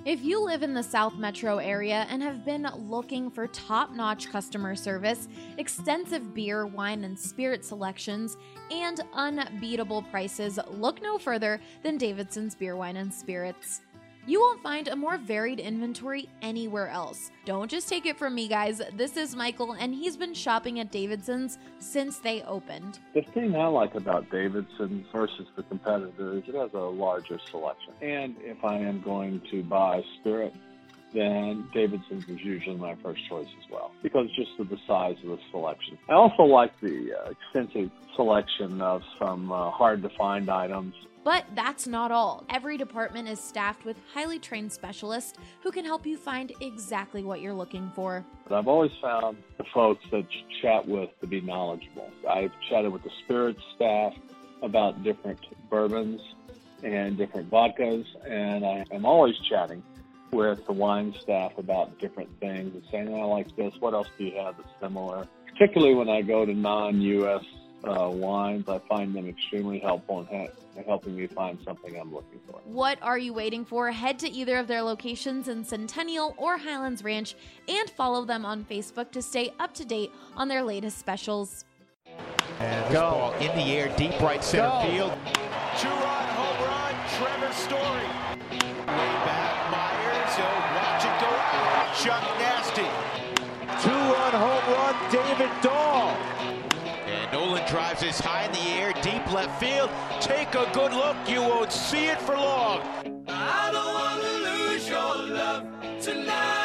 If you live in the South Metro area and have been looking for top-notch customer service, extensive beer, wine, and spirit selections, and unbeatable prices, look no further than Davidson's Beer, Wine, and Spirits. You won't find a more varied inventory anywhere else. Don't just take it from me, guys. This is Michael, and he's been shopping at Davidson's since they opened. The thing I like about Davidson's versus the competitor is it has a larger selection. And if I am going to buy spirit, then Davidson's is usually my first choice as well, because just of the size of the selection. I also like the extensive selection of some hard-to-find items. But that's not all. Every department is staffed with highly trained specialists who can help you find exactly what you're looking for. But I've always found the folks that you chat with to be knowledgeable. I've chatted with the spirits staff about different bourbons and different vodkas, and I am always chatting with the wine staff about different things and saying, I like this, what else do you have that's similar? Particularly when I go to non-U.S. wines, I find them extremely helpful in helping me find something I'm looking for. What are you waiting for? Head to either of their locations in Centennial or Highlands Ranch and follow them on Facebook to stay up to date on their latest specials. And this ball in the air, deep right center field. Two-run home run, Trevor Story. Way back, Myers, watch it go out. Chuck Nasty. Two-run home run, David Dahl. And Nolan drives this high in the air, deep left field. Take a good look, you won't see it for long. I don't want to lose your love tonight.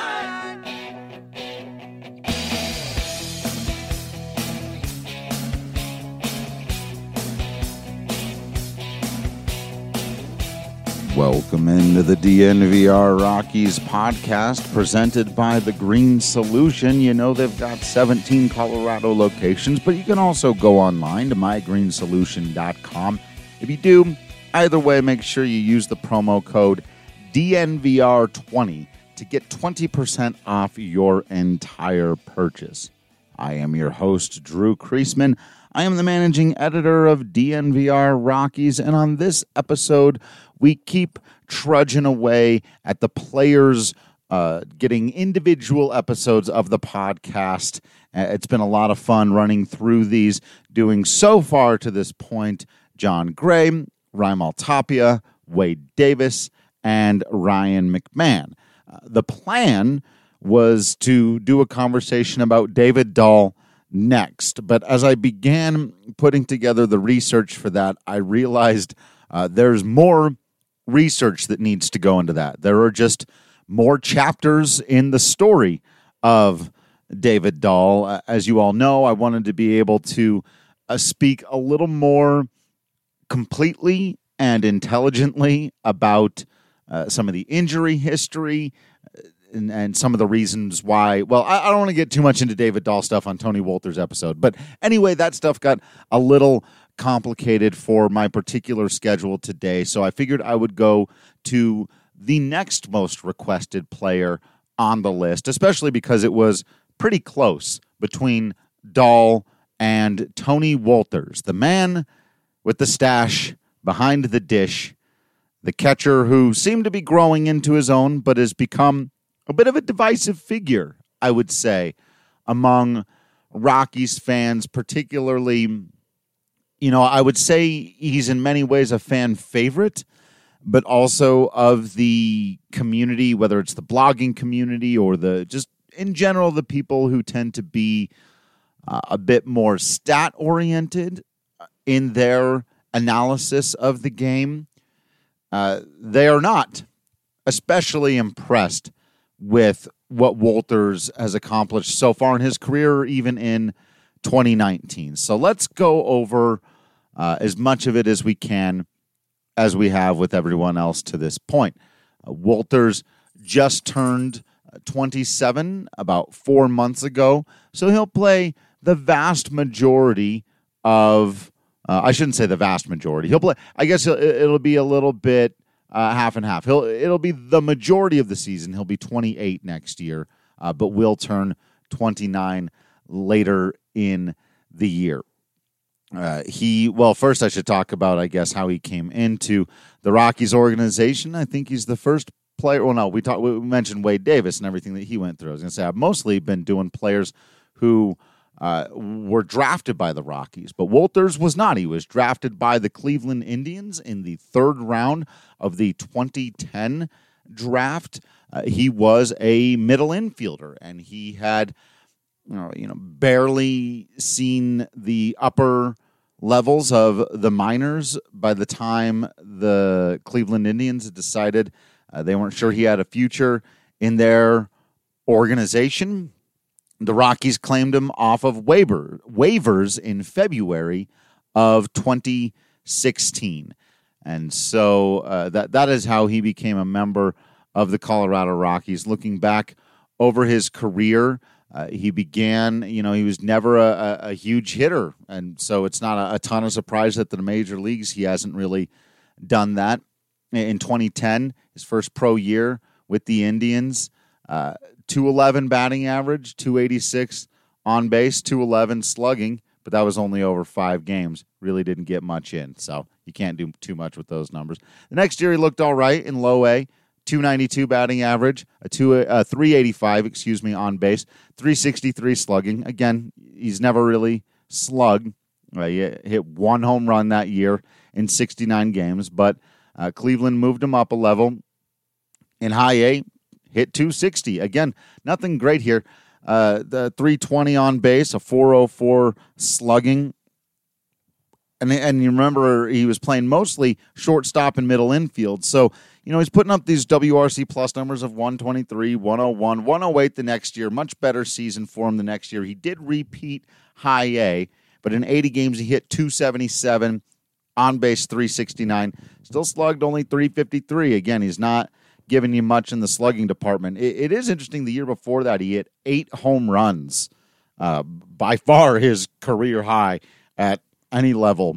Welcome into the DNVR Rockies podcast presented by The Green Solution. You know they've got 17 Colorado locations, but you can also go online to mygreensolution.com. If you do, either way, make sure you use the promo code DNVR20 to get 20% off your entire purchase. I am your host, Drew Kreisman. I am the managing editor of DNVR Rockies, and on this episode, we keep trudging away at the players getting individual episodes of the podcast. It's been a lot of fun running through these, doing so far to this point John Gray, Raimel Tapia, Wade Davis, and Ryan McMahon. The plan was to do a conversation about David Dahl next, but as I began putting together the research for that, I realized there's more research that needs to go into that. There are just more chapters in the story of David Dahl. As you all know, I wanted to be able to speak a little more completely and intelligently about some of the injury history and some of the reasons why. Well, I don't want to get too much into David Dahl stuff on Tony Wolters' episode, but anyway, that stuff got a little complicated for my particular schedule today, so I figured I would go to the next most requested player on the list, especially because it was pretty close between Dahl and Tony Wolters, the man with the stash behind the dish, the catcher who seemed to be growing into his own, but has become a bit of a divisive figure, I would say, among Rockies fans, particularly. You know, I would say he's in many ways a fan favorite, but also of the community, whether it's the blogging community or the just in general, the people who tend to be a bit more stat oriented in their analysis of the game. They are not especially impressed with what Wolters has accomplished so far in his career, or even in 2019. So let's go over as much of it as we can, as we have with everyone else to this point. Wolters just turned 27 about 4 months ago, so he'll play the vast majority of, I shouldn't say the vast majority. He'll play, I guess it'll be a little bit half and half. It'll be the majority of the season. He'll be 28 next year, but will turn 29 later in the year. First I should talk about, I guess, how he came into the Rockies organization. I think he's the first player. Well, no, we mentioned Wade Davis and everything that he went through. I was going to say I've mostly been doing players who were drafted by the Rockies, but Wolters was not. He was drafted by the Cleveland Indians in the third round of the 2010 draft. He was a middle infielder, and he had barely seen the upper levels of the minors by the time the Cleveland Indians decided they weren't sure he had a future in their organization. The Rockies claimed him off of waivers in February of 2016. And so that is how he became a member of the Colorado Rockies. Looking back over his career, he began, he was never a huge hitter. And so it's not a ton of surprise that the major leagues, he hasn't really done that. In 2010, his first pro year with the Indians, 211 batting average, 286 on base, 211 slugging, but that was only over 5 games. Really didn't get much in, so you can't do too much with those numbers. The next year he looked all right in low A, 292 batting average, 385, on base, 363 slugging. Again, he's never really slugged. He hit 1 home run that year in 69 games, but Cleveland moved him up a level. In high A, hit 260. Again, nothing great here. The 320 on base, a 404 slugging. And you remember he was playing mostly shortstop and middle infield. So, he's putting up these WRC plus numbers of 123, 101, 108 the next year. Much better season for him the next year. He did repeat high A, but in 80 games he hit 277, on base 369. Still slugged only 353. Again, he's not giving you much in the slugging department. It is interesting. The year before that, he hit 8 home runs, by far his career high at any level.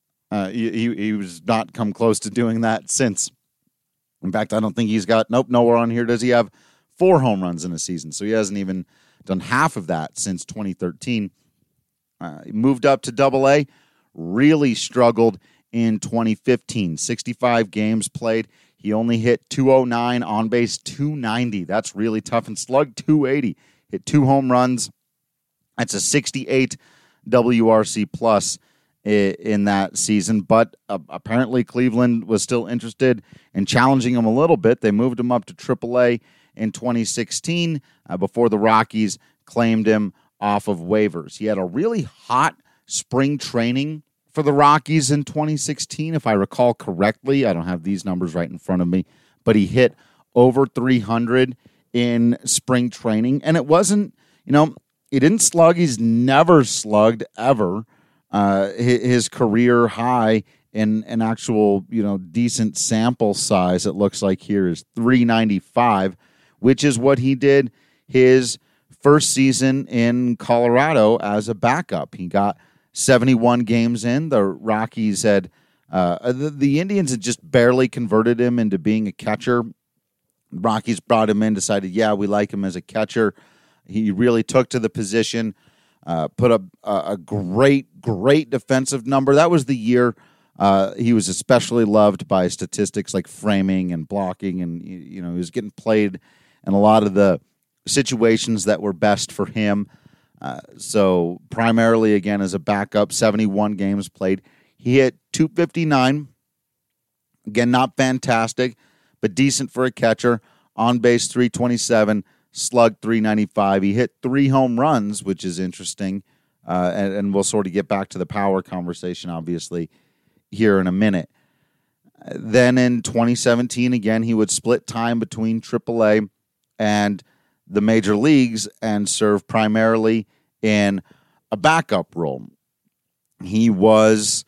He was not come close to doing that since. In fact, I don't think he's got, nowhere on here does he have 4 home runs in a season. So he hasn't even done half of that since 2013. He moved up to Double A, really struggled in 2015. 65 games played. He only hit 209, on base 290. That's really tough. And slugged 280. Hit 2 home runs. That's a 68 WRC plus in that season. But apparently Cleveland was still interested in challenging him a little bit. They moved him up to AAA in 2016 before the Rockies claimed him off of waivers. He had a really hot spring training for the Rockies in 2016, if I recall correctly. I don't have these numbers right in front of me, but he hit over 300 in spring training. And it wasn't, he didn't slug. He's never slugged ever. His career high in an actual, decent sample size, it looks like here, is 395, which is what he did his first season in Colorado as a backup. He got 71 games in. The Rockies had, the Indians had just barely converted him into being a catcher. The Rockies brought him in, decided, we like him as a catcher. He really took to the position, put up a great defensive number. That was the year he was especially loved by statistics like framing and blocking, and he was getting played in a lot of the situations that were best for him. So primarily, again, as a backup, 71 games played. He hit 259. Again, not fantastic, but decent for a catcher. On base 327, slugged 395. He hit 3 home runs, which is interesting. And we'll sort of get back to the power conversation, obviously, here in a minute. Then in 2017, again, he would split time between AAA and the major leagues and serve primarily in a backup role. He was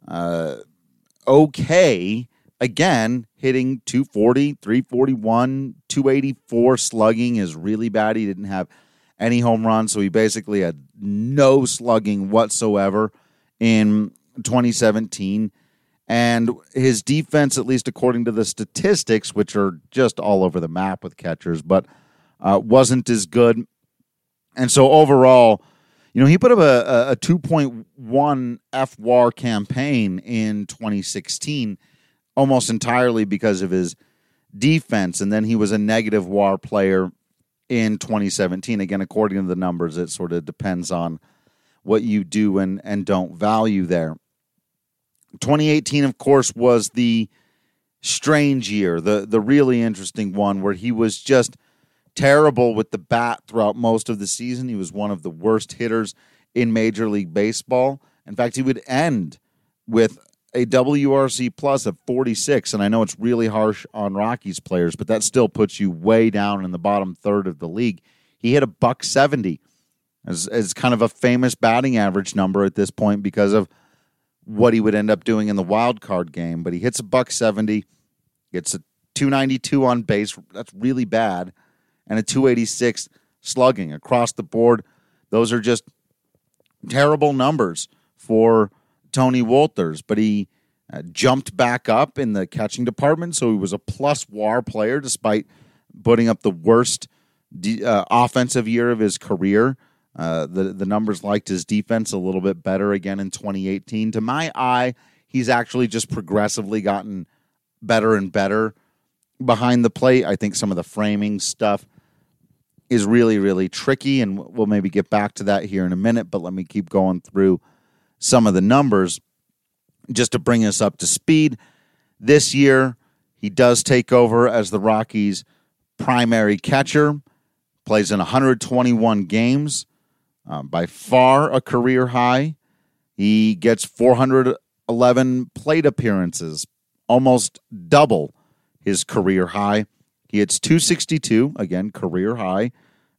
okay, again, hitting 240, 341, 284. Slugging is really bad. He didn't have any home runs, so he basically had no slugging whatsoever in 2017. And his defense, at least according to the statistics, which are just all over the map with catchers, but wasn't as good. And so overall, he put up a 2.1 FWAR campaign in 2016, almost entirely because of his defense, and then he was a negative WAR player in 2017. Again, according to the numbers, it sort of depends on what you do and don't value there. 2018, of course, was the strange year, the really interesting one where he was just terrible with the bat throughout most of the season. He was one of the worst hitters in Major League Baseball. In fact, he would end with a WRC plus of 46, and I know it's really harsh on Rockies players, but that still puts you way down in the bottom third of the league. He hit a .170 as kind of a famous batting average number at this point because of what he would end up doing in the wild card game. But he hits a .170, gets a 292 on base. That's really bad. And a 286 slugging across the board. Those are just terrible numbers for Tony Wolters. But he jumped back up in the catching department, so he was a plus WAR player despite putting up the worst offensive year of his career. The numbers liked his defense a little bit better again in 2018. To my eye, he's actually just progressively gotten better and better behind the plate. I think some of the framing stuff is really, really tricky, and we'll maybe get back to that here in a minute, but let me keep going through some of the numbers just to bring us up to speed. This year, he does take over as the Rockies' primary catcher, plays in 121 games, by far a career high. He gets 411 plate appearances, almost double his career high. He hits 262, again, career high,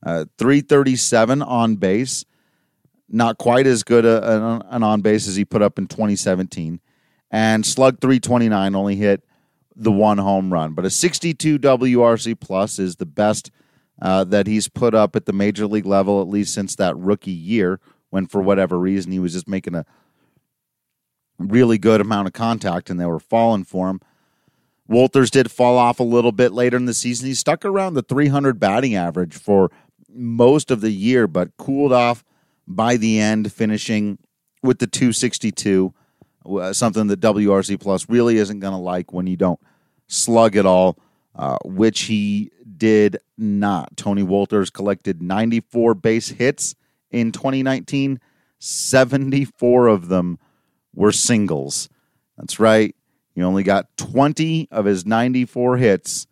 337 on base. Not quite as good an on base as he put up in 2017. And slug 329, only hit the one home run. But a 62 WRC plus is the best that he's put up at the major league level, at least since that rookie year, when for whatever reason he was just making a really good amount of contact and they were falling for him. Wolters did fall off a little bit later in the season. He stuck around the 300 batting average for most of the year, but cooled off by the end, finishing with the 262, something that WRC Plus really isn't going to like when you don't slug it all, which he did not. Tony Wolters collected 94 base hits in 2019. 74 of them were singles. That's right. He only got 20 of his 94 hits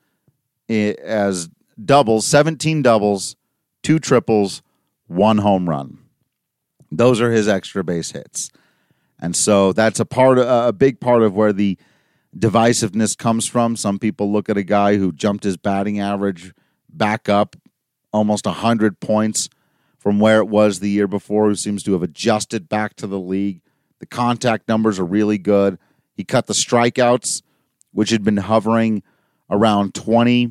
as doubles, 17 doubles, 2 triples, 1 home run. Those are his extra base hits. And so that's a big part of where the divisiveness comes from. Some people look at a guy who jumped his batting average back up almost 100 points from where it was the year before, who seems to have adjusted back to the league. The contact numbers are really good. He cut the strikeouts, which had been hovering around 20,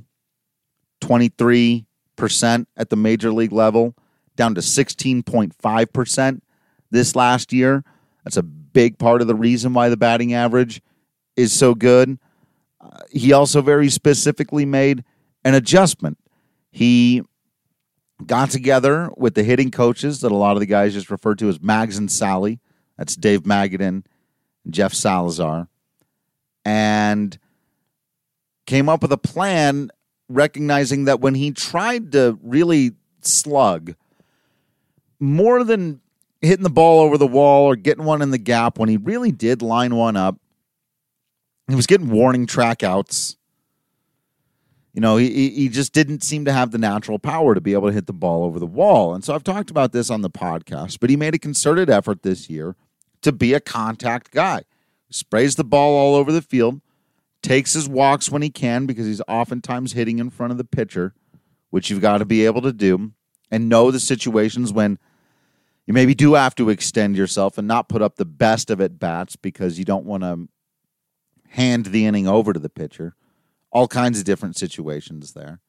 23% at the major league level, down to 16.5% this last year. That's a big part of the reason why the batting average is so good. He also very specifically made an adjustment. He got together with the hitting coaches that a lot of the guys just referred to as Mags and Sally. That's Dave Magadan and Jeff Salazar. And came up with a plan, recognizing that when he tried to really slug, more than hitting the ball over the wall or getting one in the gap, when he really did line one up, he was getting warning track outs. You know, he just didn't seem to have the natural power to be able to hit the ball over the wall. And so I've talked about this on the podcast, but he made a concerted effort this year to be a contact guy. He sprays the ball all over the field, takes his walks when he can because he's oftentimes hitting in front of the pitcher, which you've got to be able to do, and know the situations when you maybe do have to extend yourself and not put up the best of at-bats because you don't want to hand the inning over to the pitcher. All kinds of different situations there.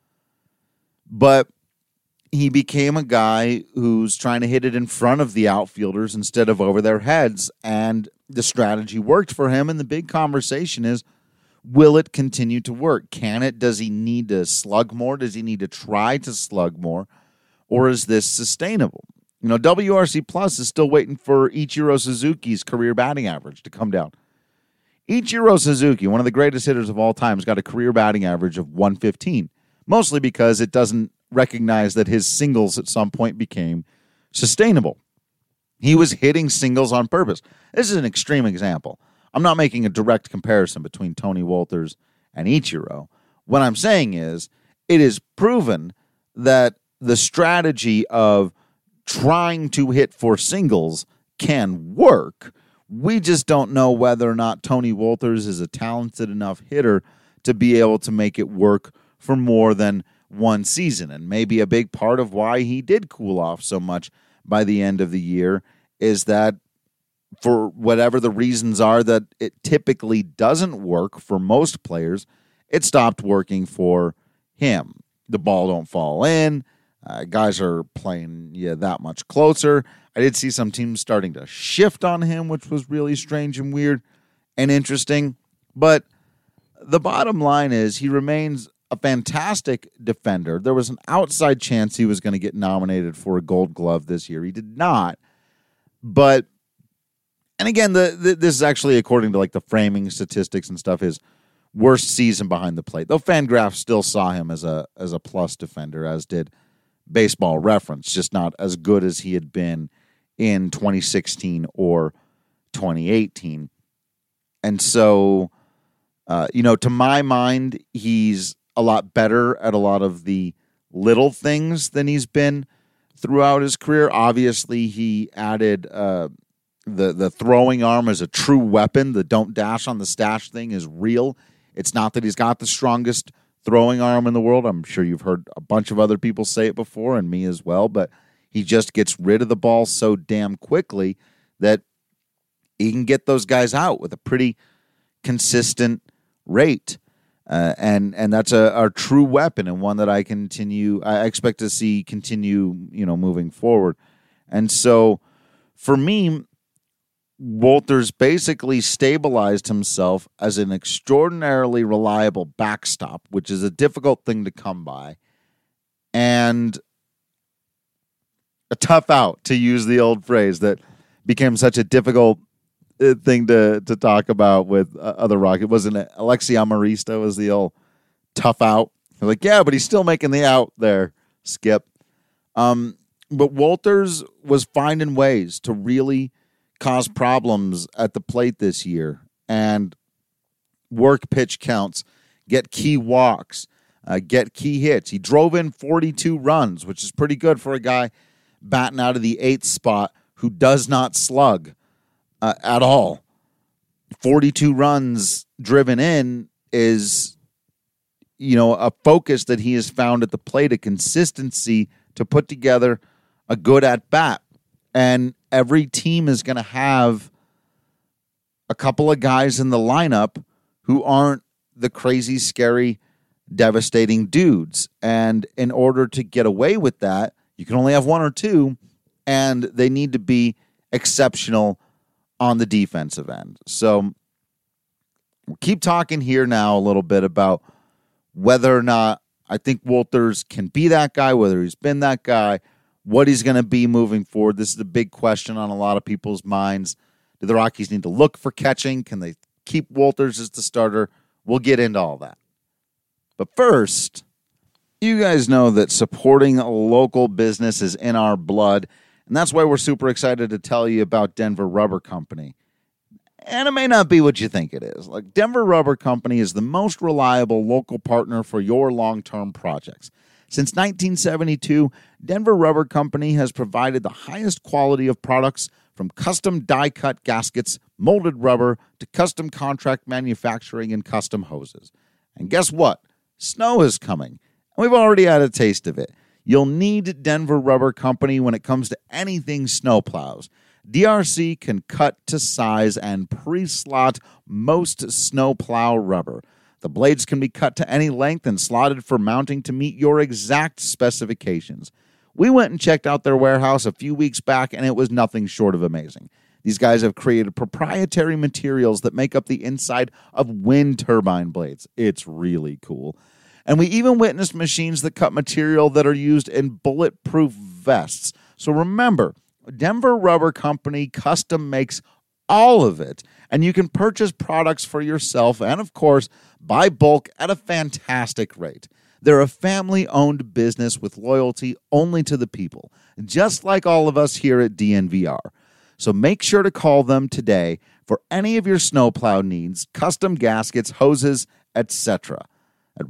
But he became a guy who's trying to hit it in front of the outfielders instead of over their heads, and the strategy worked for him, and the big conversation is, will it continue to work? Can it? Does he need to slug more? Does he need to try to slug more? Or is this sustainable? You know, WRC Plus is still waiting for Ichiro Suzuki's career batting average to come down. Ichiro Suzuki, one of the greatest hitters of all time, has got a career batting average of 115, mostly because it doesn't recognize that his singles at some point became sustainable. He was hitting singles on purpose. This is an extreme example. I'm not making a direct comparison between Tony Wolters and Ichiro. What I'm saying is it is proven that the strategy of trying to hit for singles can work. We just don't know whether or not Tony Wolters is a talented enough hitter to be able to make it work for more than one season. And maybe a big part of why he did cool off so much by the end of the year is that for whatever the reasons are that it typically doesn't work for most players, it stopped working for him. The ball don't fall in. Guys are playing that much closer. I did see some teams starting to shift on him, which was really strange and weird and interesting. But the bottom line is he remains a fantastic defender. There was an outside chance he was going to get nominated for a Gold Glove this year. He did not. But, and again, this is actually, according to like the framing statistics and stuff, his worst season behind the plate. Though Fangraphs still saw him as a plus defender, as did Baseball Reference, just not as good as he had been in 2016 or 2018. And so, to my mind, he's a lot better at a lot of the little things than he's been throughout his career. Obviously, he added the throwing arm as a true weapon. The don't dash on the stash thing is real. It's not that he's got the strongest throwing arm in the world. I'm sure you've heard a bunch of other people say it before, and me as well, but he just gets rid of the ball so damn quickly that he can get those guys out with a pretty consistent rate. And that's a true weapon, and one that I expect to see continue, moving forward. And so for me, Wolters basically stabilized himself as an extraordinarily reliable backstop, which is a difficult thing to come by, and a tough out, to use the old phrase that became such a difficult thing to talk about with other Rockets. Wasn't it Alexi Amarista was the old tough out? They're like, yeah, but he's still making the out there, Skip. But Wolters was finding ways to really cause problems at the plate this year and work pitch counts, get key walks, get key hits. He drove in 42 runs, which is pretty good for a guy batting out of the 8th spot who does not slug at all. 42 runs driven in is, a focus that he has found at the plate, a consistency to put together a good at-bat. And every team is going to have a couple of guys in the lineup who aren't the crazy, scary, devastating dudes. And in order to get away with that, you can only have one or two, and they need to be exceptional on the defensive end. So we'll keep talking here now a little bit about whether or not I think Wolters can be that guy, whether he's been that guy, what he's going to be moving forward. This is a big question on a lot of people's minds. Do the Rockies need to look for catching? Can they keep Wolters as the starter? We'll get into all that. But first, you guys know that supporting a local business is in our blood, and that's why we're super excited to tell you about Denver Rubber Company. And it may not be what you think it is. Like, Denver Rubber Company is the most reliable local partner for your long-term projects. Since 1972, Denver Rubber Company has provided the highest quality of products, from custom die-cut gaskets, molded rubber, to custom contract manufacturing and custom hoses. And guess what? Snow is coming, and we've already had a taste of it. You'll need Denver Rubber Company when it comes to anything snowplows. DRC can cut to size and pre-slot most snowplow rubber. The blades can be cut to any length and slotted for mounting to meet your exact specifications. We went and checked out their warehouse a few weeks back, and it was nothing short of amazing. These guys have created proprietary materials that make up the inside of wind turbine blades. It's really cool. And we even witnessed machines that cut material that are used in bulletproof vests. So remember, Denver Rubber Company custom makes all of it, And you can purchase products for yourself and, of course, buy bulk at a fantastic rate. They're a family-owned business with loyalty only to the people, just like all of us here at DNVR. So make sure to call them today for any of your snowplow needs, custom gaskets, hoses, etc. at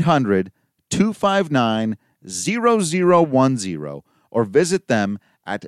1-800-259-0010 or visit them at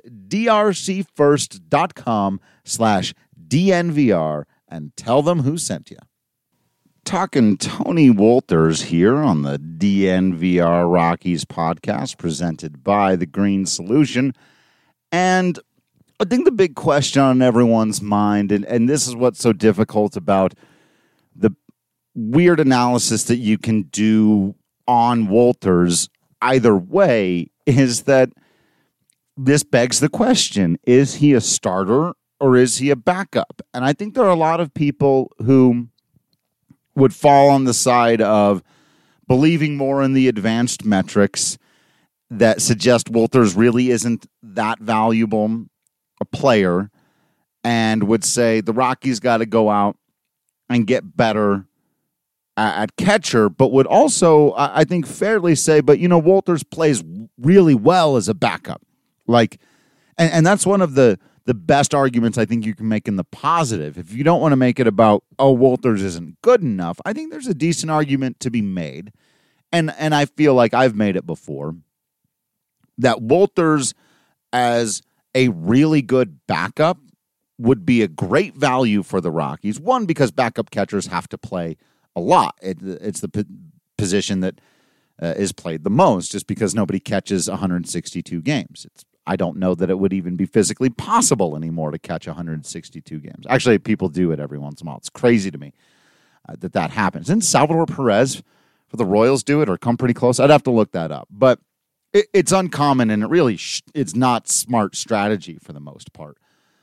drcfirst.com/DNVR and tell them who sent you. Talking Tony Wolters here on the DNVR Rockies podcast presented by The Green Solution. And I think the big question on everyone's mind, and this is what's so difficult about the weird analysis that you can do on Wolters either way, is that this begs the question, is he a starter or is he a backup? And I think there are a lot of people who would fall on the side of believing more in the advanced metrics that suggest Wolters really isn't that valuable a player, and would say the Rockies got to go out and get better at catcher, but would also, I think, fairly say, but, Wolters plays really well as a backup. And that's one of the best arguments I think you can make in the positive. If you don't want to make it about, Wolters isn't good enough, I think there's a decent argument to be made. And I feel like I've made it before, that Wolters as a really good backup would be a great value for the Rockies. One, because backup catchers have to play a lot. It's the position that is played the most, just because nobody catches 162 games. I don't know that it would even be physically possible anymore to catch 162 games. Actually, people do it every once in a while. It's crazy to me that happens. Didn't Salvador Perez for the Royals do it or come pretty close? I'd have to look that up. But it's uncommon, and it's not smart strategy for the most part.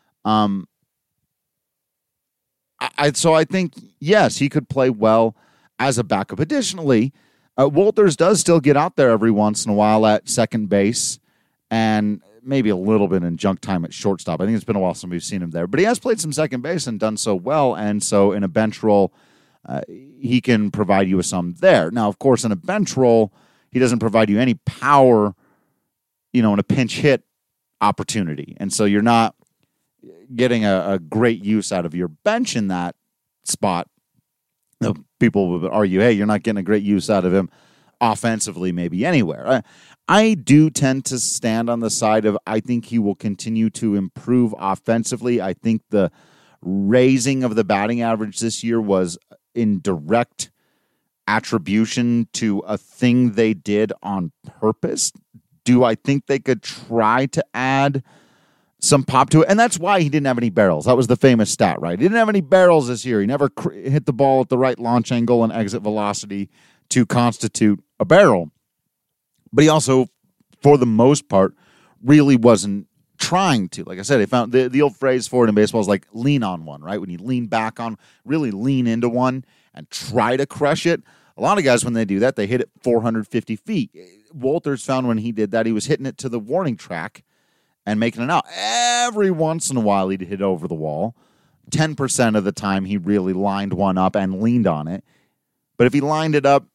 So I think, yes, he could play well as a backup. Additionally, Wolters does still get out there every once in a while at second base and maybe a little bit in junk time at shortstop. I think it's been a while since we've seen him there. But he has played some second base and done so well, and so in a bench role, he can provide you with some there. Now, of course, in a bench role, he doesn't provide you any power, in a pinch hit opportunity. And so you're not getting a great use out of your bench in that spot. People would argue, hey, you're not getting a great use out of him offensively maybe anywhere. I do tend to stand on the side of I think he will continue to improve offensively. I think the raising of the batting average this year was in direct attribution to a thing they did on purpose. Do I think they could try to add some pop to it? And that's why he didn't have any barrels. That was the famous stat, right? He didn't have any barrels this year. He never hit the ball at the right launch angle and exit velocity to constitute a barrel. But he also, for the most part, really wasn't trying to. Like I said, they found the old phrase for it in baseball is like lean on one, right? When you lean back on, really lean into one and try to crush it. A lot of guys, when they do that, they hit it 450 feet. Wolters found when he did that, he was hitting it to the warning track and making it out. Every once in a while, he'd hit over the wall. 10% of the time, he really lined one up and leaned on it. But if he lined it up,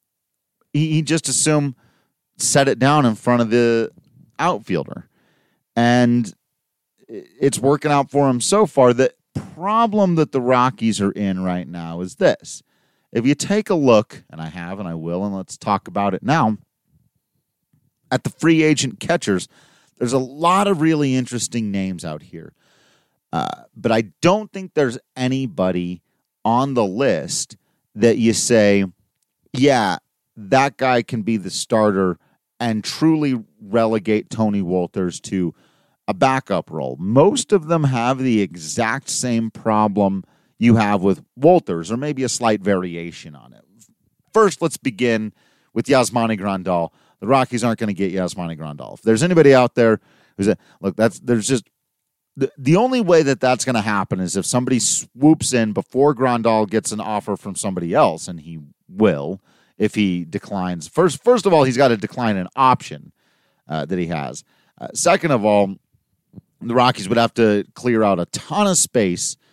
he just assumed set it down in front of the outfielder. And it's working out for him so far. The problem that the Rockies are in right now is this. If you take a look, and I have and I will, and let's talk about it now, at the free agent catchers, there's a lot of really interesting names out here. But I don't think there's anybody on the list that you say, yeah, that guy can be the starter and truly relegate Tony Wolters to a backup role. Most of them have the exact same problem you have with Wolters, or maybe a slight variation on it. First, let's begin with Yasmani Grandal. The Rockies aren't going to get Yasmani Grandal. If there's anybody out there who's there's just the only way that that's going to happen is if somebody swoops in before Grandal gets an offer from somebody else, and he will if he declines. First of all, he's got to decline an option that he has. Second of all, the Rockies would have to clear out a ton of space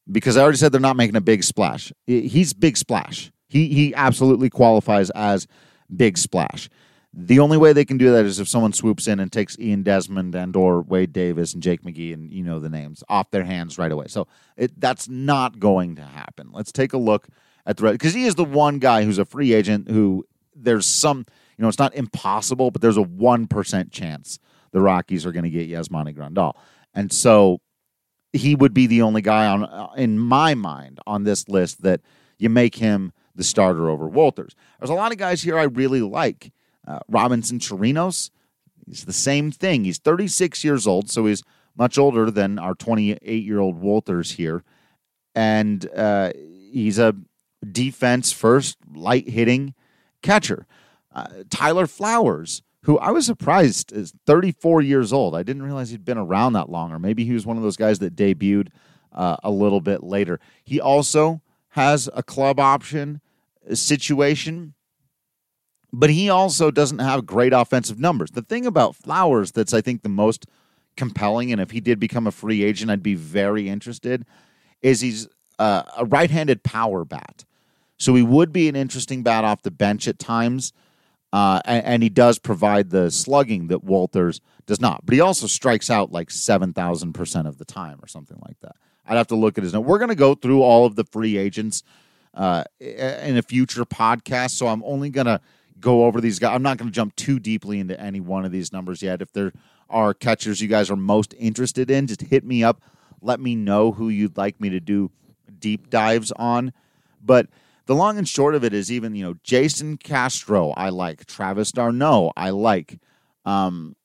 because I already said they're not making a big splash. He's big splash. He absolutely qualifies as big splash. The only way they can do that is if someone swoops in and takes Ian Desmond and or Wade Davis and Jake McGee, and you know the names, off their hands right away. So that's not going to happen. Let's take a look at the rest, because he is the one guy who's a free agent who there's some, it's not impossible, but there's a 1% chance the Rockies are going to get Yasmani Grandal. And so he would be the only guy in my mind on this list that you make him the starter over Wolters. There's a lot of guys here I really like. Robinson Chirinos, he's the same thing. He's 36 years old, so he's much older than our 28-year-old Wolters here. And he's a defense-first, light-hitting catcher. Tyler Flowers, who I was surprised is 34 years old. I didn't realize he'd been around that long, or maybe he was one of those guys that debuted a little bit later. He also has a club option situation, but he also doesn't have great offensive numbers. The thing about Flowers that's, I think, the most compelling, and if he did become a free agent, I'd be very interested, is he's a right-handed power bat. So he would be an interesting bat off the bench at times, and he does provide the slugging that Wolters does not. But he also strikes out like 7,000% of the time or something like that. I'd have to look at his note. We're going to go through all of the free agents in a future podcast, so I'm only going to go over these guys. I'm not going to jump too deeply into any one of these numbers yet. If there are catchers you guys are most interested in, just hit me up. Let me know who you'd like me to do deep dives on. But the long and short of it is even, Jason Castro, I like. Travis d'Arnaud, I like. Austin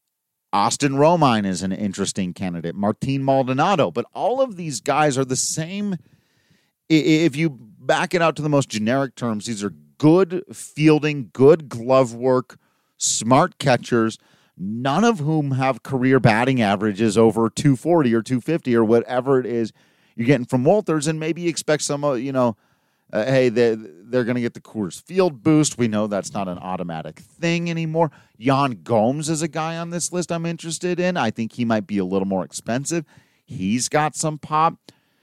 Romine is an interesting candidate. Martin Maldonado. But all of these guys are the same. If you back it out to the most generic terms, these are good fielding, good glove work, smart catchers, none of whom have career batting averages over 240 or 250 or whatever it is you're getting from Wolters, and maybe you expect some, hey, they're going to get the Coors Field boost. We know that's not an automatic thing anymore. Yan Gomes is a guy on this list I'm interested in. I think he might be a little more expensive. He's got some pop.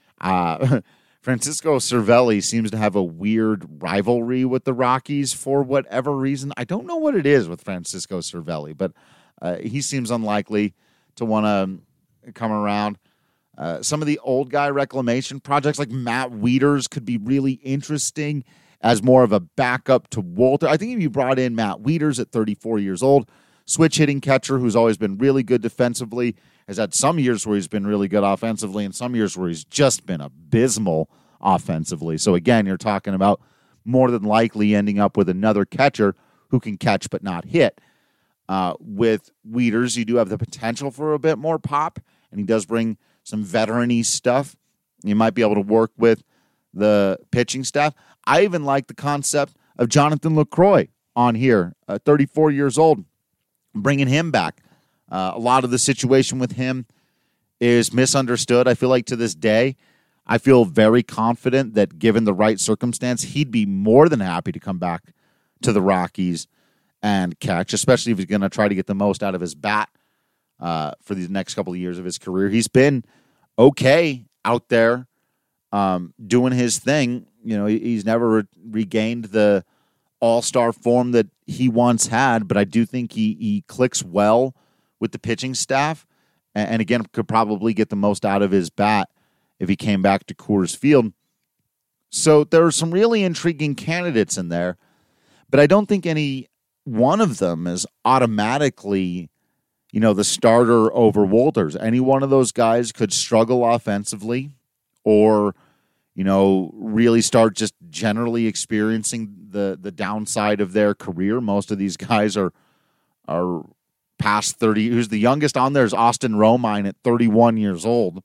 Francisco Cervelli seems to have a weird rivalry with the Rockies for whatever reason. I don't know what it is with Francisco Cervelli, but he seems unlikely to want to come around. Some of the old guy reclamation projects like Matt Wieters could be really interesting as more of a backup to Wolter. I think if you brought in Matt Wieters at 34 years old, switch hitting catcher who's always been really good defensively, has had some years where he's been really good offensively and some years where he's just been abysmal offensively. So again, you're talking about more than likely ending up with another catcher who can catch but not hit. With Wieters, you do have the potential for a bit more pop, and he does bring some veteran-y stuff. You might be able to work with the pitching staff. I even like the concept of Jonathan LaCroix on here, 34 years old, bringing him back. A lot of the situation with him is misunderstood. I feel like to this day, I feel very confident that given the right circumstance, he'd be more than happy to come back to the Rockies and catch, especially if he's going to try to get the most out of his bat for these next couple of years of his career. He's been okay out there doing his thing. He's never regained the all-star form that he once had, but I do think he clicks well with the pitching staff, and again, could probably get the most out of his bat if he came back to Coors Field. So there are some really intriguing candidates in there, but I don't think any one of them is automatically, the starter over Wolters. Any one of those guys could struggle offensively or, really start just generally experiencing the downside of their career. Most of these guys are past 30. Who's the youngest on there is Austin Romine at 31 years old.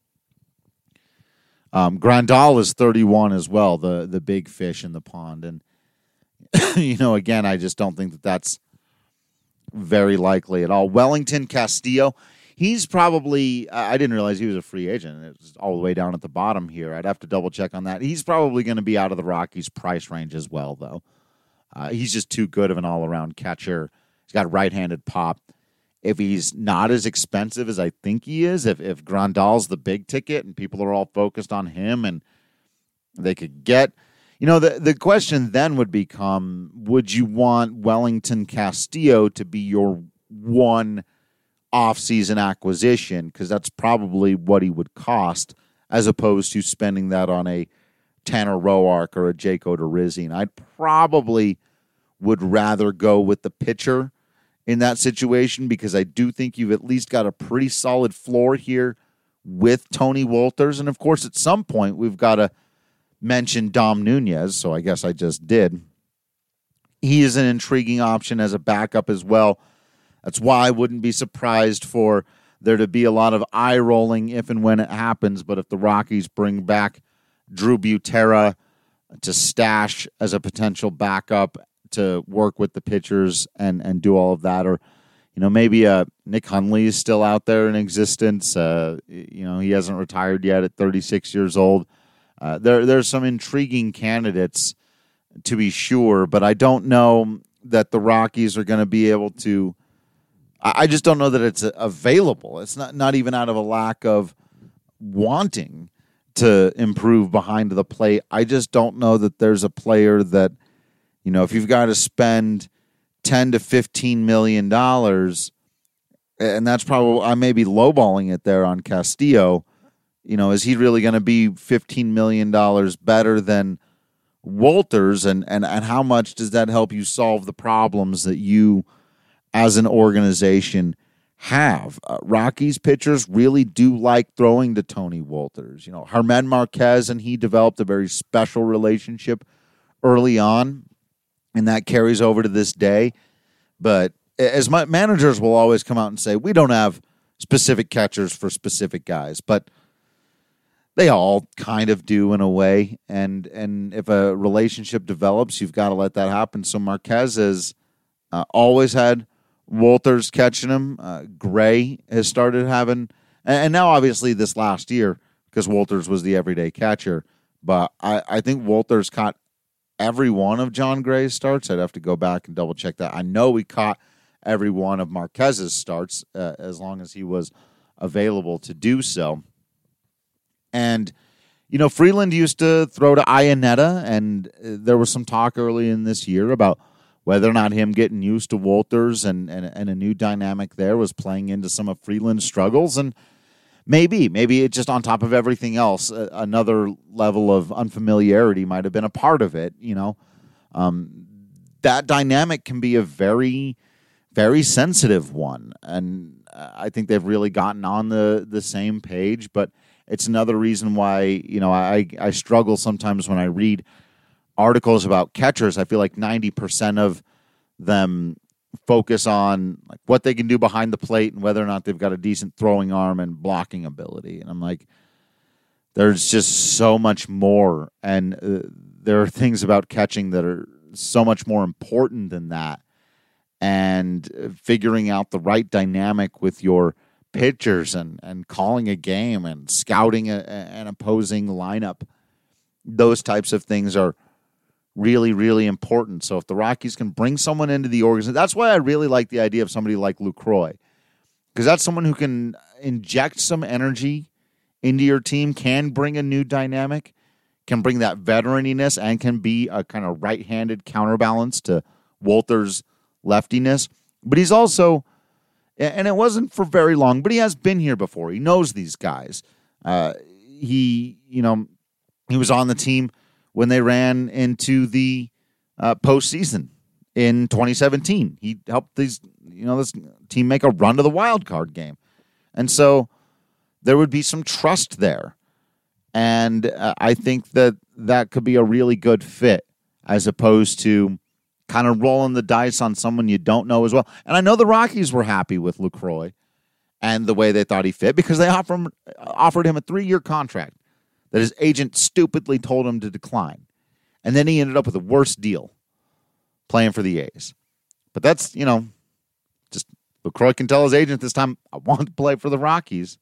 Grandal is 31 as well, the big fish in the pond. And, again, I just don't think that that's very likely at all. Wellington Castillo, he's probably, I didn't realize he was a free agent. It's all the way down at the bottom here. I'd have to double check on that. He's probably going to be out of the Rockies' price range as well, though. He's just too good of an all-around catcher. He's got right-handed pop. if he's not as expensive as I think he is, if Grandal's the big ticket and people are all focused on him and they could get, the question then would become, would you want Wellington Castillo to be your one off-season acquisition? Because that's probably what he would cost, as opposed to spending that on a Tanner Roark or a Jake Odorizzi. And I probably would rather go with the pitcher in that situation, because I do think you've at least got a pretty solid floor here with Tony Wolters. And, of course, at some point we've got to mention Dom Nunez, so I guess I just did. He is an intriguing option as a backup as well. That's why I wouldn't be surprised for there to be a lot of eye-rolling if and when it happens. But if the Rockies bring back Drew Butera to stash as a potential backup to work with the pitchers and do all of that, or maybe Nick Hundley is still out there in existence. He hasn't retired yet at 36 years old. There's some intriguing candidates, to be sure, but I don't know that the Rockies are going to be able to. I just don't know that it's available. It's not even out of a lack of wanting to improve behind the plate. I just don't know that there's a player that, if you've got to spend $10 to $15 million, and that's probably, I may be lowballing it there on Castillo, is he really going to be $15 million better than Wolters? And how much does that help you solve the problems that you, as an organization, have? Rockies pitchers really do like throwing to Tony Wolters. Germán Marquez and he developed a very special relationship early on, and that carries over to this day. But as my managers will always come out and say, we don't have specific catchers for specific guys, but they all kind of do in a way. And if a relationship develops, you've got to let that happen. So Marquez has always had Wolters catching him. Gray has started having, and now obviously this last year, because Wolters was the everyday catcher, but I think Wolters caught every one of John Gray's starts. I'd have to go back and double check that. I know we caught every one of Marquez's starts as long as he was available to do so. And, Freeland used to throw to Iannetta, and there was some talk early in this year about whether or not him getting used to Wolters and a new dynamic there was playing into some of Freeland's struggles. And maybe it just, on top of everything else, another level of unfamiliarity might have been a part of it. That dynamic can be a very, very sensitive one. And I think they've really gotten on the same page, but it's another reason why, I struggle sometimes when I read articles about catchers. I feel like 90% of them focus on like what they can do behind the plate and whether or not they've got a decent throwing arm and blocking ability. And I'm like, there's just so much more. And there are things about catching that are so much more important than that. And figuring out the right dynamic with your pitchers and calling a game and scouting an opposing lineup, those types of things are really, really important. So if the Rockies can bring someone into the organization, that's why I really like the idea of somebody like Lucroy, because that's someone who can inject some energy into your team, can bring a new dynamic, can bring that veteraniness, and can be a kind of right-handed counterbalance to Wolters' leftiness. But he's also, and it wasn't for very long, but he has been here before. He knows these guys. He was on the team when they ran into the postseason in 2017. He helped this team make a run to the wild card game. And so there would be some trust there. And I think that could be a really good fit, as opposed to kind of rolling the dice on someone you don't know as well. And I know the Rockies were happy with Lucroy and the way they thought he fit, because they offered him a 3-year contract that his agent stupidly told him to decline. And then he ended up with a worse deal playing for the A's. But that's, just Lucroy can tell his agent this time, I want to play for the Rockies.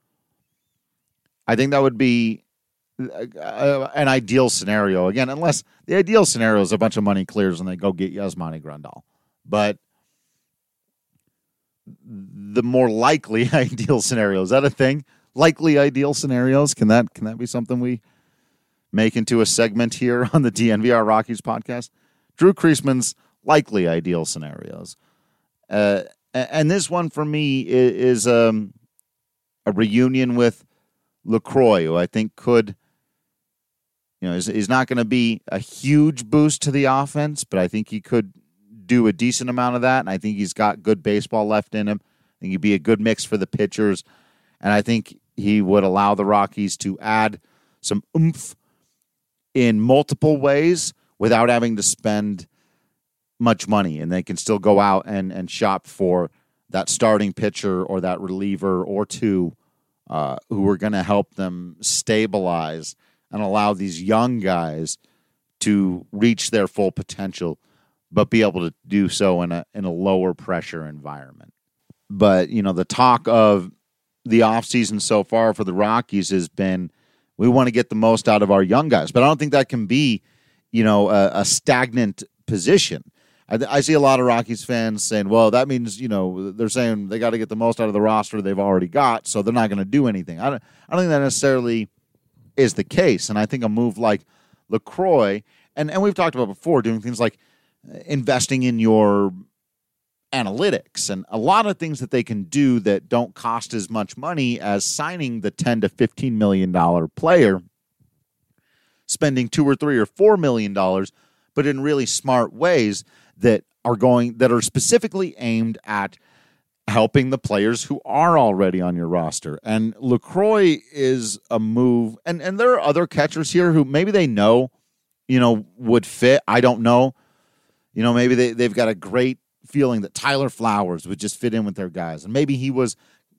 I think that would be an ideal scenario. Again, unless the ideal scenario is a bunch of money clears and they go get Yasmani Grandal. But the more likely ideal scenario. Is that a thing? Likely ideal scenarios? Can that be something we make into a segment here on the DNVR Rockies podcast? Drew Creasman's likely ideal scenarios. And this one for me is a reunion with LaCroix, who I think could, is not going to be a huge boost to the offense, but I think he could do a decent amount of that, and I think he's got good baseball left in him. I think he'd be a good mix for the pitchers, and I think he would allow the Rockies to add some oomph in multiple ways without having to spend much money, and they can still go out and shop for that starting pitcher or that reliever or two who are going to help them stabilize and allow these young guys to reach their full potential, but be able to do so in a lower pressure environment. But, the talk of the offseason so far for the Rockies has been, we want to get the most out of our young guys. But I don't think that can be, a stagnant position. I see a lot of Rockies fans saying, well, that means, they're saying they got to get the most out of the roster they've already got, so they're not going to do anything. I don't think that necessarily is the case. And I think a move like LaCroix, and we've talked about before, doing things like investing in your analytics and a lot of things that they can do that don't cost as much money as signing the $10 to $15 million player, spending $2 or $3 or $4 million, but in really smart ways that are specifically aimed at helping the players who are already on your roster. And LaCroix is a move, and there are other catchers here who maybe they know, would fit. I don't know. Maybe they've got a great feeling that Tyler Flowers would just fit in with their guys. And maybe he was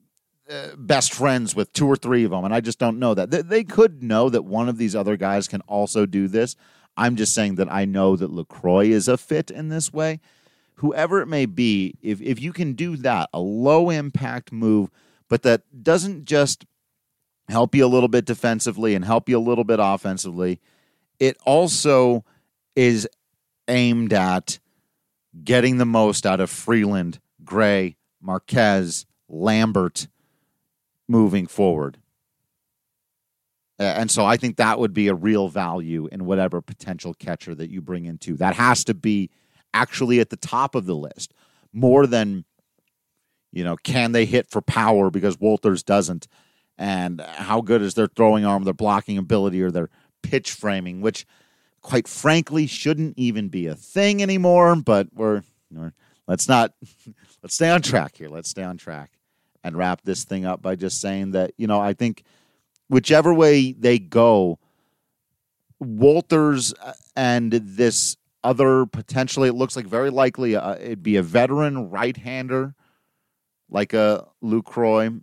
best friends with 2 or 3 of them, and I just don't know that. They could know that one of these other guys can also do this. I'm just saying that I know that LaCroix is a fit in this way. Whoever it may be, if you can do that, a low-impact move, but that doesn't just help you a little bit defensively and help you a little bit offensively, it also is aimed at getting the most out of Freeland, Gray, Marquez, Lambert moving forward. And so I think that would be a real value in whatever potential catcher that you bring into. That has to be actually at the top of the list, more than, can they hit for power because Wolters doesn't, and how good is their throwing arm, their blocking ability, or their pitch framing, which quite frankly shouldn't even be a thing anymore. But let's stay on track here. Let's stay on track and wrap this thing up by just saying that, I think whichever way they go, Wolters and this other potentially, it looks like very likely it'd be a veteran right-hander like a LaCroix.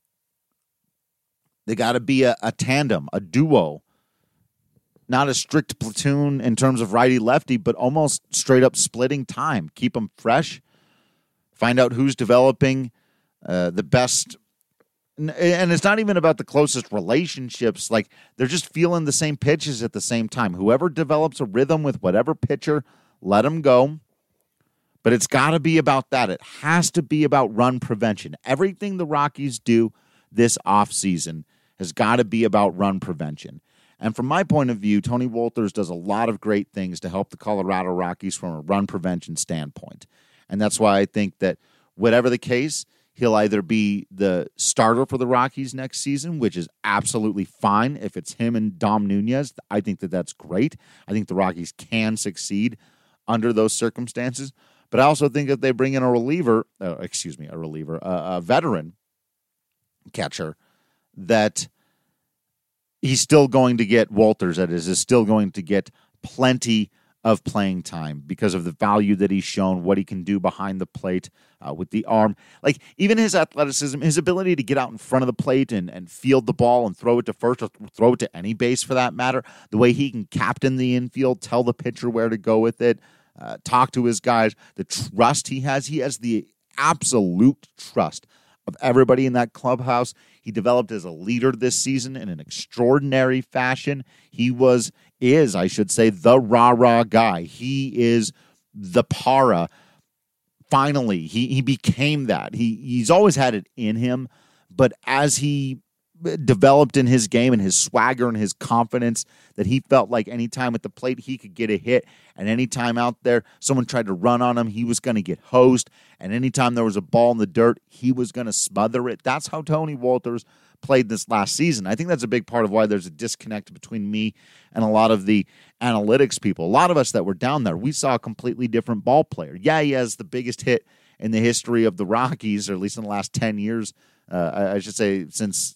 They got to be a tandem, a duo, not a strict platoon in terms of righty-lefty, but almost straight-up splitting time. Keep them fresh, find out who's developing the best. And it's not even about the closest relationships. Like, they're just feeling the same pitches at the same time. Whoever develops a rhythm with whatever pitcher, let them go. But it's got to be about that. It has to be about run prevention. Everything the Rockies do this offseason has got to be about run prevention. And from my point of view, Tony Wolters does a lot of great things to help the Colorado Rockies from a run prevention standpoint. And that's why I think that whatever the case, he'll either be the starter for the Rockies next season, which is absolutely fine. If it's him and Dom Nunez, I think that that's great. I think the Rockies can succeed under those circumstances. But I also think that they bring in a veteran catcher, that he's still going to get Wolters, that is still going to get plenty of playing time because of the value that he's shown, what he can do behind the plate with the arm. Like, even his athleticism, his ability to get out in front of the plate and field the ball and throw it to first or throw it to any base for that matter, the way he can captain the infield, tell the pitcher where to go with it, talk to his guys, the trust he has the absolute trust of everybody in that clubhouse. He developed as a leader this season in an extraordinary fashion. He is, I should say, the rah-rah guy. He is the para finally, he became that. He's always had it in him, but as he developed in his game and his swagger and his confidence, that he felt like anytime at the plate he could get a hit, and anytime out there someone tried to run on him, he was going to get hosed, and anytime there was a ball in the dirt, he was going to smother it. That's how Tony Wolters played this last season. I think that's a big part of why there's a disconnect between me and a lot of the analytics people. A lot of us that were down there, we saw a completely different ball player. Yeah, he has the biggest hit in the history of the Rockies, or at least in the last 10 years, I should say since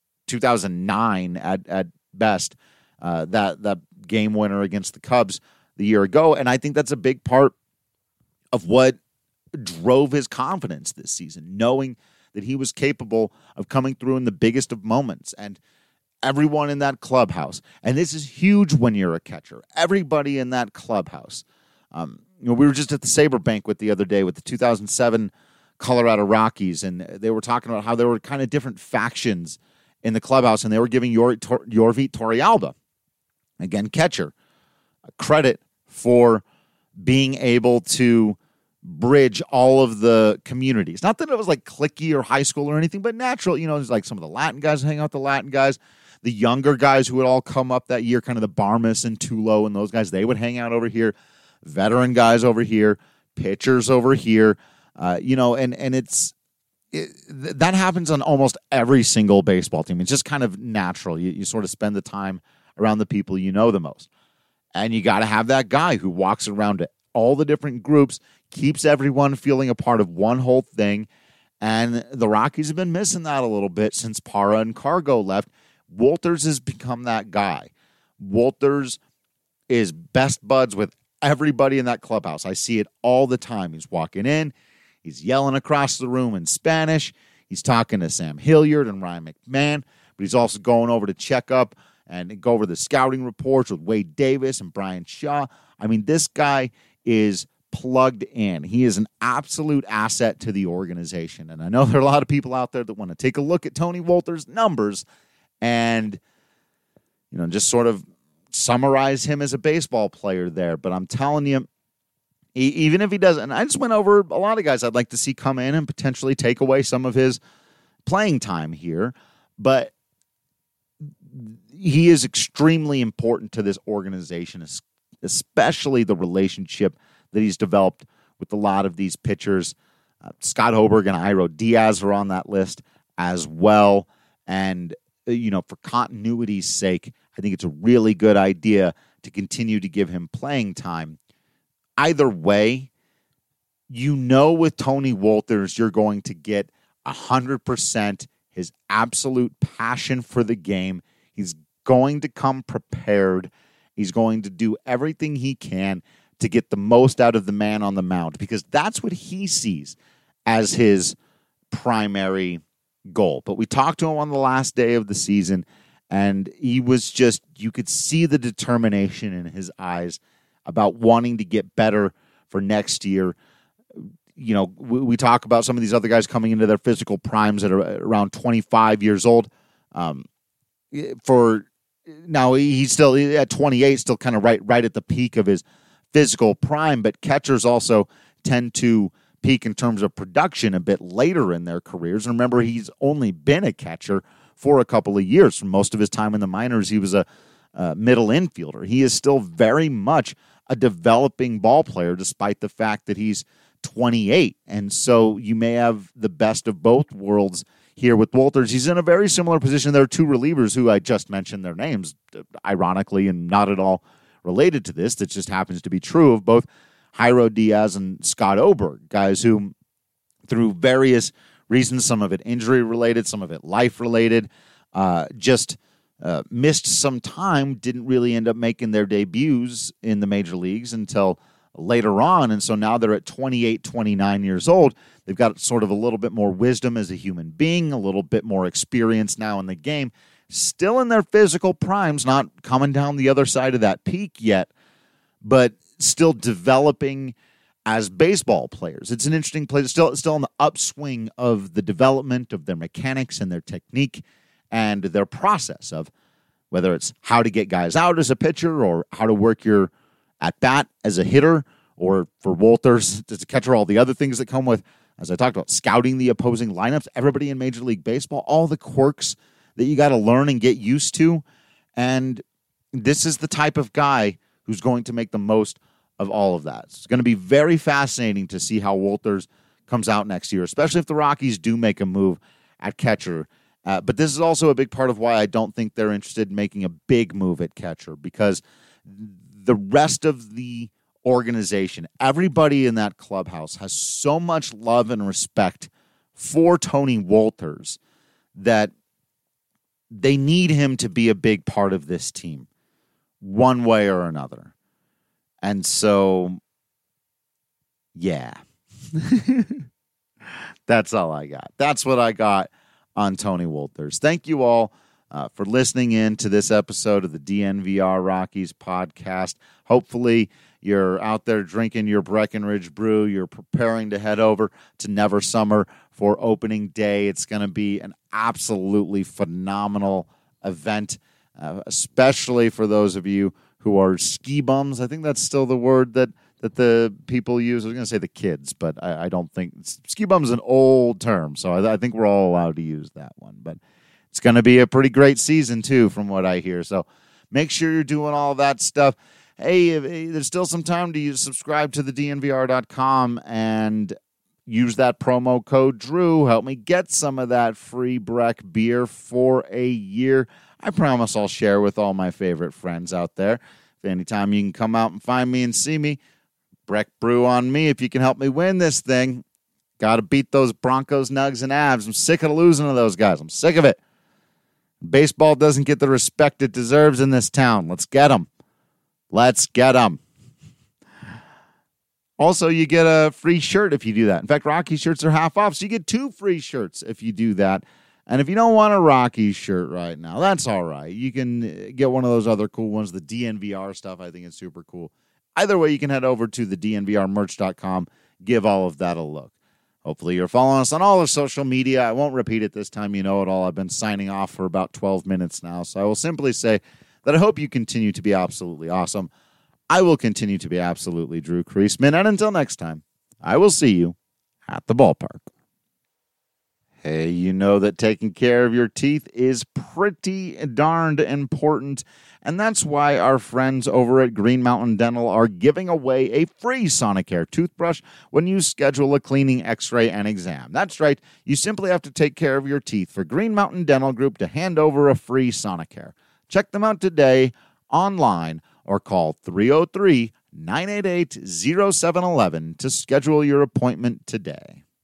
2009 at best, that game winner against the Cubs the year ago. And I think that's a big part of what drove his confidence this season, knowing that he was capable of coming through in the biggest of moments. And everyone in that clubhouse, and this is huge when you're a catcher, everybody in that clubhouse. We were just at the Sabre banquet the other day with the 2007 Colorado Rockies, and they were talking about how there were kind of different factions in the clubhouse, and they were giving Yorvi Torrealba, again, catcher, credit for being able to bridge all of the communities. Not that it was like cliquey or high school or anything, but natural. There's like some of the Latin guys hang out with the Latin guys. The younger guys who would all come up that year, kind of the Barmas and Tulo and those guys, they would hang out over here. Veteran guys over here, pitchers over here, and that happens on almost every single baseball team. It's just kind of natural. You sort of spend the time around the people you know the most. And you got to have that guy who walks around to all the different groups, keeps everyone feeling a part of one whole thing. And the Rockies have been missing that a little bit since Parra and Cargo left. Wolters has become that guy. Wolters is best buds with everybody in that clubhouse. I see it all the time. He's walking in. He's yelling across the room in Spanish. He's talking to Sam Hilliard and Ryan McMahon, but he's also going over to check up and go over the scouting reports with Wade Davis and Brian Shaw. I mean, this guy is plugged in. He is an absolute asset to the organization. And I know there are a lot of people out there that want to take a look at Tony Wolters' numbers and, just sort of summarize him as a baseball player there. But I'm telling you, even if he doesn't, and I just went over a lot of guys I'd like to see come in and potentially take away some of his playing time here, but he is extremely important to this organization, especially the relationship that he's developed with a lot of these pitchers. Scott Hoberg and Iro Diaz are on that list as well, and for continuity's sake, I think it's a really good idea to continue to give him playing time. Either way, with Tony Wolters, you're going to get 100% his absolute passion for the game. He's going to come prepared. He's going to do everything he can to get the most out of the man on the mound, because that's what he sees as his primary goal. But we talked to him on the last day of the season, and he was just, you could see the determination in his eyes about wanting to get better for next year. We talk about some of these other guys coming into their physical primes at around 25 years old. For now, he's still at 28, still kind of right at the peak of his physical prime, but catchers also tend to peak in terms of production a bit later in their careers. And remember, he's only been a catcher for a couple of years. For most of his time in the minors, he was a middle infielder. He is still very much a developing ball player, despite the fact that he's 28. And so you may have the best of both worlds here with Wolters. He's in a very similar position. There are two relievers who I just mentioned their names, ironically, and not at all related to this. That just happens to be true of both Jairo Diaz and Scott Oberg, guys who, through various reasons, some of it injury-related, some of it life-related, missed some time, didn't really end up making their debuts in the major leagues until later on. And so now they're at 28, 29 years old. They've got sort of a little bit more wisdom as a human being, a little bit more experience now in the game, still in their physical primes, not coming down the other side of that peak yet, but still developing as baseball players. It's an interesting place, still on the upswing of the development of their mechanics and their technique and their process of whether it's how to get guys out as a pitcher or how to work your at-bat as a hitter or for Wolters to catch all the other things that come with, as I talked about, scouting the opposing lineups, everybody in Major League Baseball, all the quirks that you got to learn and get used to. And this is the type of guy who's going to make the most of all of that. It's going to be very fascinating to see how Wolters comes out next year, especially if the Rockies do make a move at catcher. But this is also a big part of why I don't think they're interested in making a big move at catcher, because the rest of the organization, everybody in that clubhouse has so much love and respect for Tony Wolters that they need him to be a big part of this team one way or another. And so, yeah, that's all I got. That's what I got on Tony Wolters. Thank you all for listening in to this episode of the DNVR Rockies podcast. Hopefully you're out there drinking your Breckenridge brew. You're preparing to head over to Never Summer for opening day. It's going to be an absolutely phenomenal event, especially for those of you who are ski bums. I think that's still the word that the people use. I was going to say the kids, but I don't think ski bum is an old term, so I think we're all allowed to use that one. But it's going to be a pretty great season too, from what I hear. So make sure you're doing all that stuff. Hey, there's still some time to subscribe to the DNVR.com and use that promo code Drew. Help me get some of that free Breck beer for a year. I promise I'll share with all my favorite friends out there. If anytime you can come out and find me and see me, Breck brew on me if you can help me win this thing. Got to beat those Broncos, Nugs, and Avs. I'm sick of losing to those guys. I'm sick of it. Baseball doesn't get the respect it deserves in this town. Let's get them. Let's get them. Also, you get a free shirt if you do that. In fact, Rocky shirts are half off, so you get 2 free shirts if you do that. And if you don't want a Rocky shirt right now, that's all right. You can get one of those other cool ones, the DNVR stuff. I think it's super cool. Either way, you can head over to the DNVRmerch.com, give all of that a look. Hopefully, you're following us on all of social media. I won't repeat it this time. You know it all. I've been signing off for about 12 minutes now, so I will simply say that I hope you continue to be absolutely awesome. I will continue to be absolutely Drew Creasman, and until next time, I will see you at the ballpark. Hey, you know that taking care of your teeth is pretty darned important, and that's why our friends over at Green Mountain Dental are giving away a free Sonicare toothbrush when you schedule a cleaning, x-ray, and exam. That's right, you simply have to take care of your teeth for Green Mountain Dental Group to hand over a free Sonicare. Check them out today online or call 303-988-0711 to schedule your appointment today.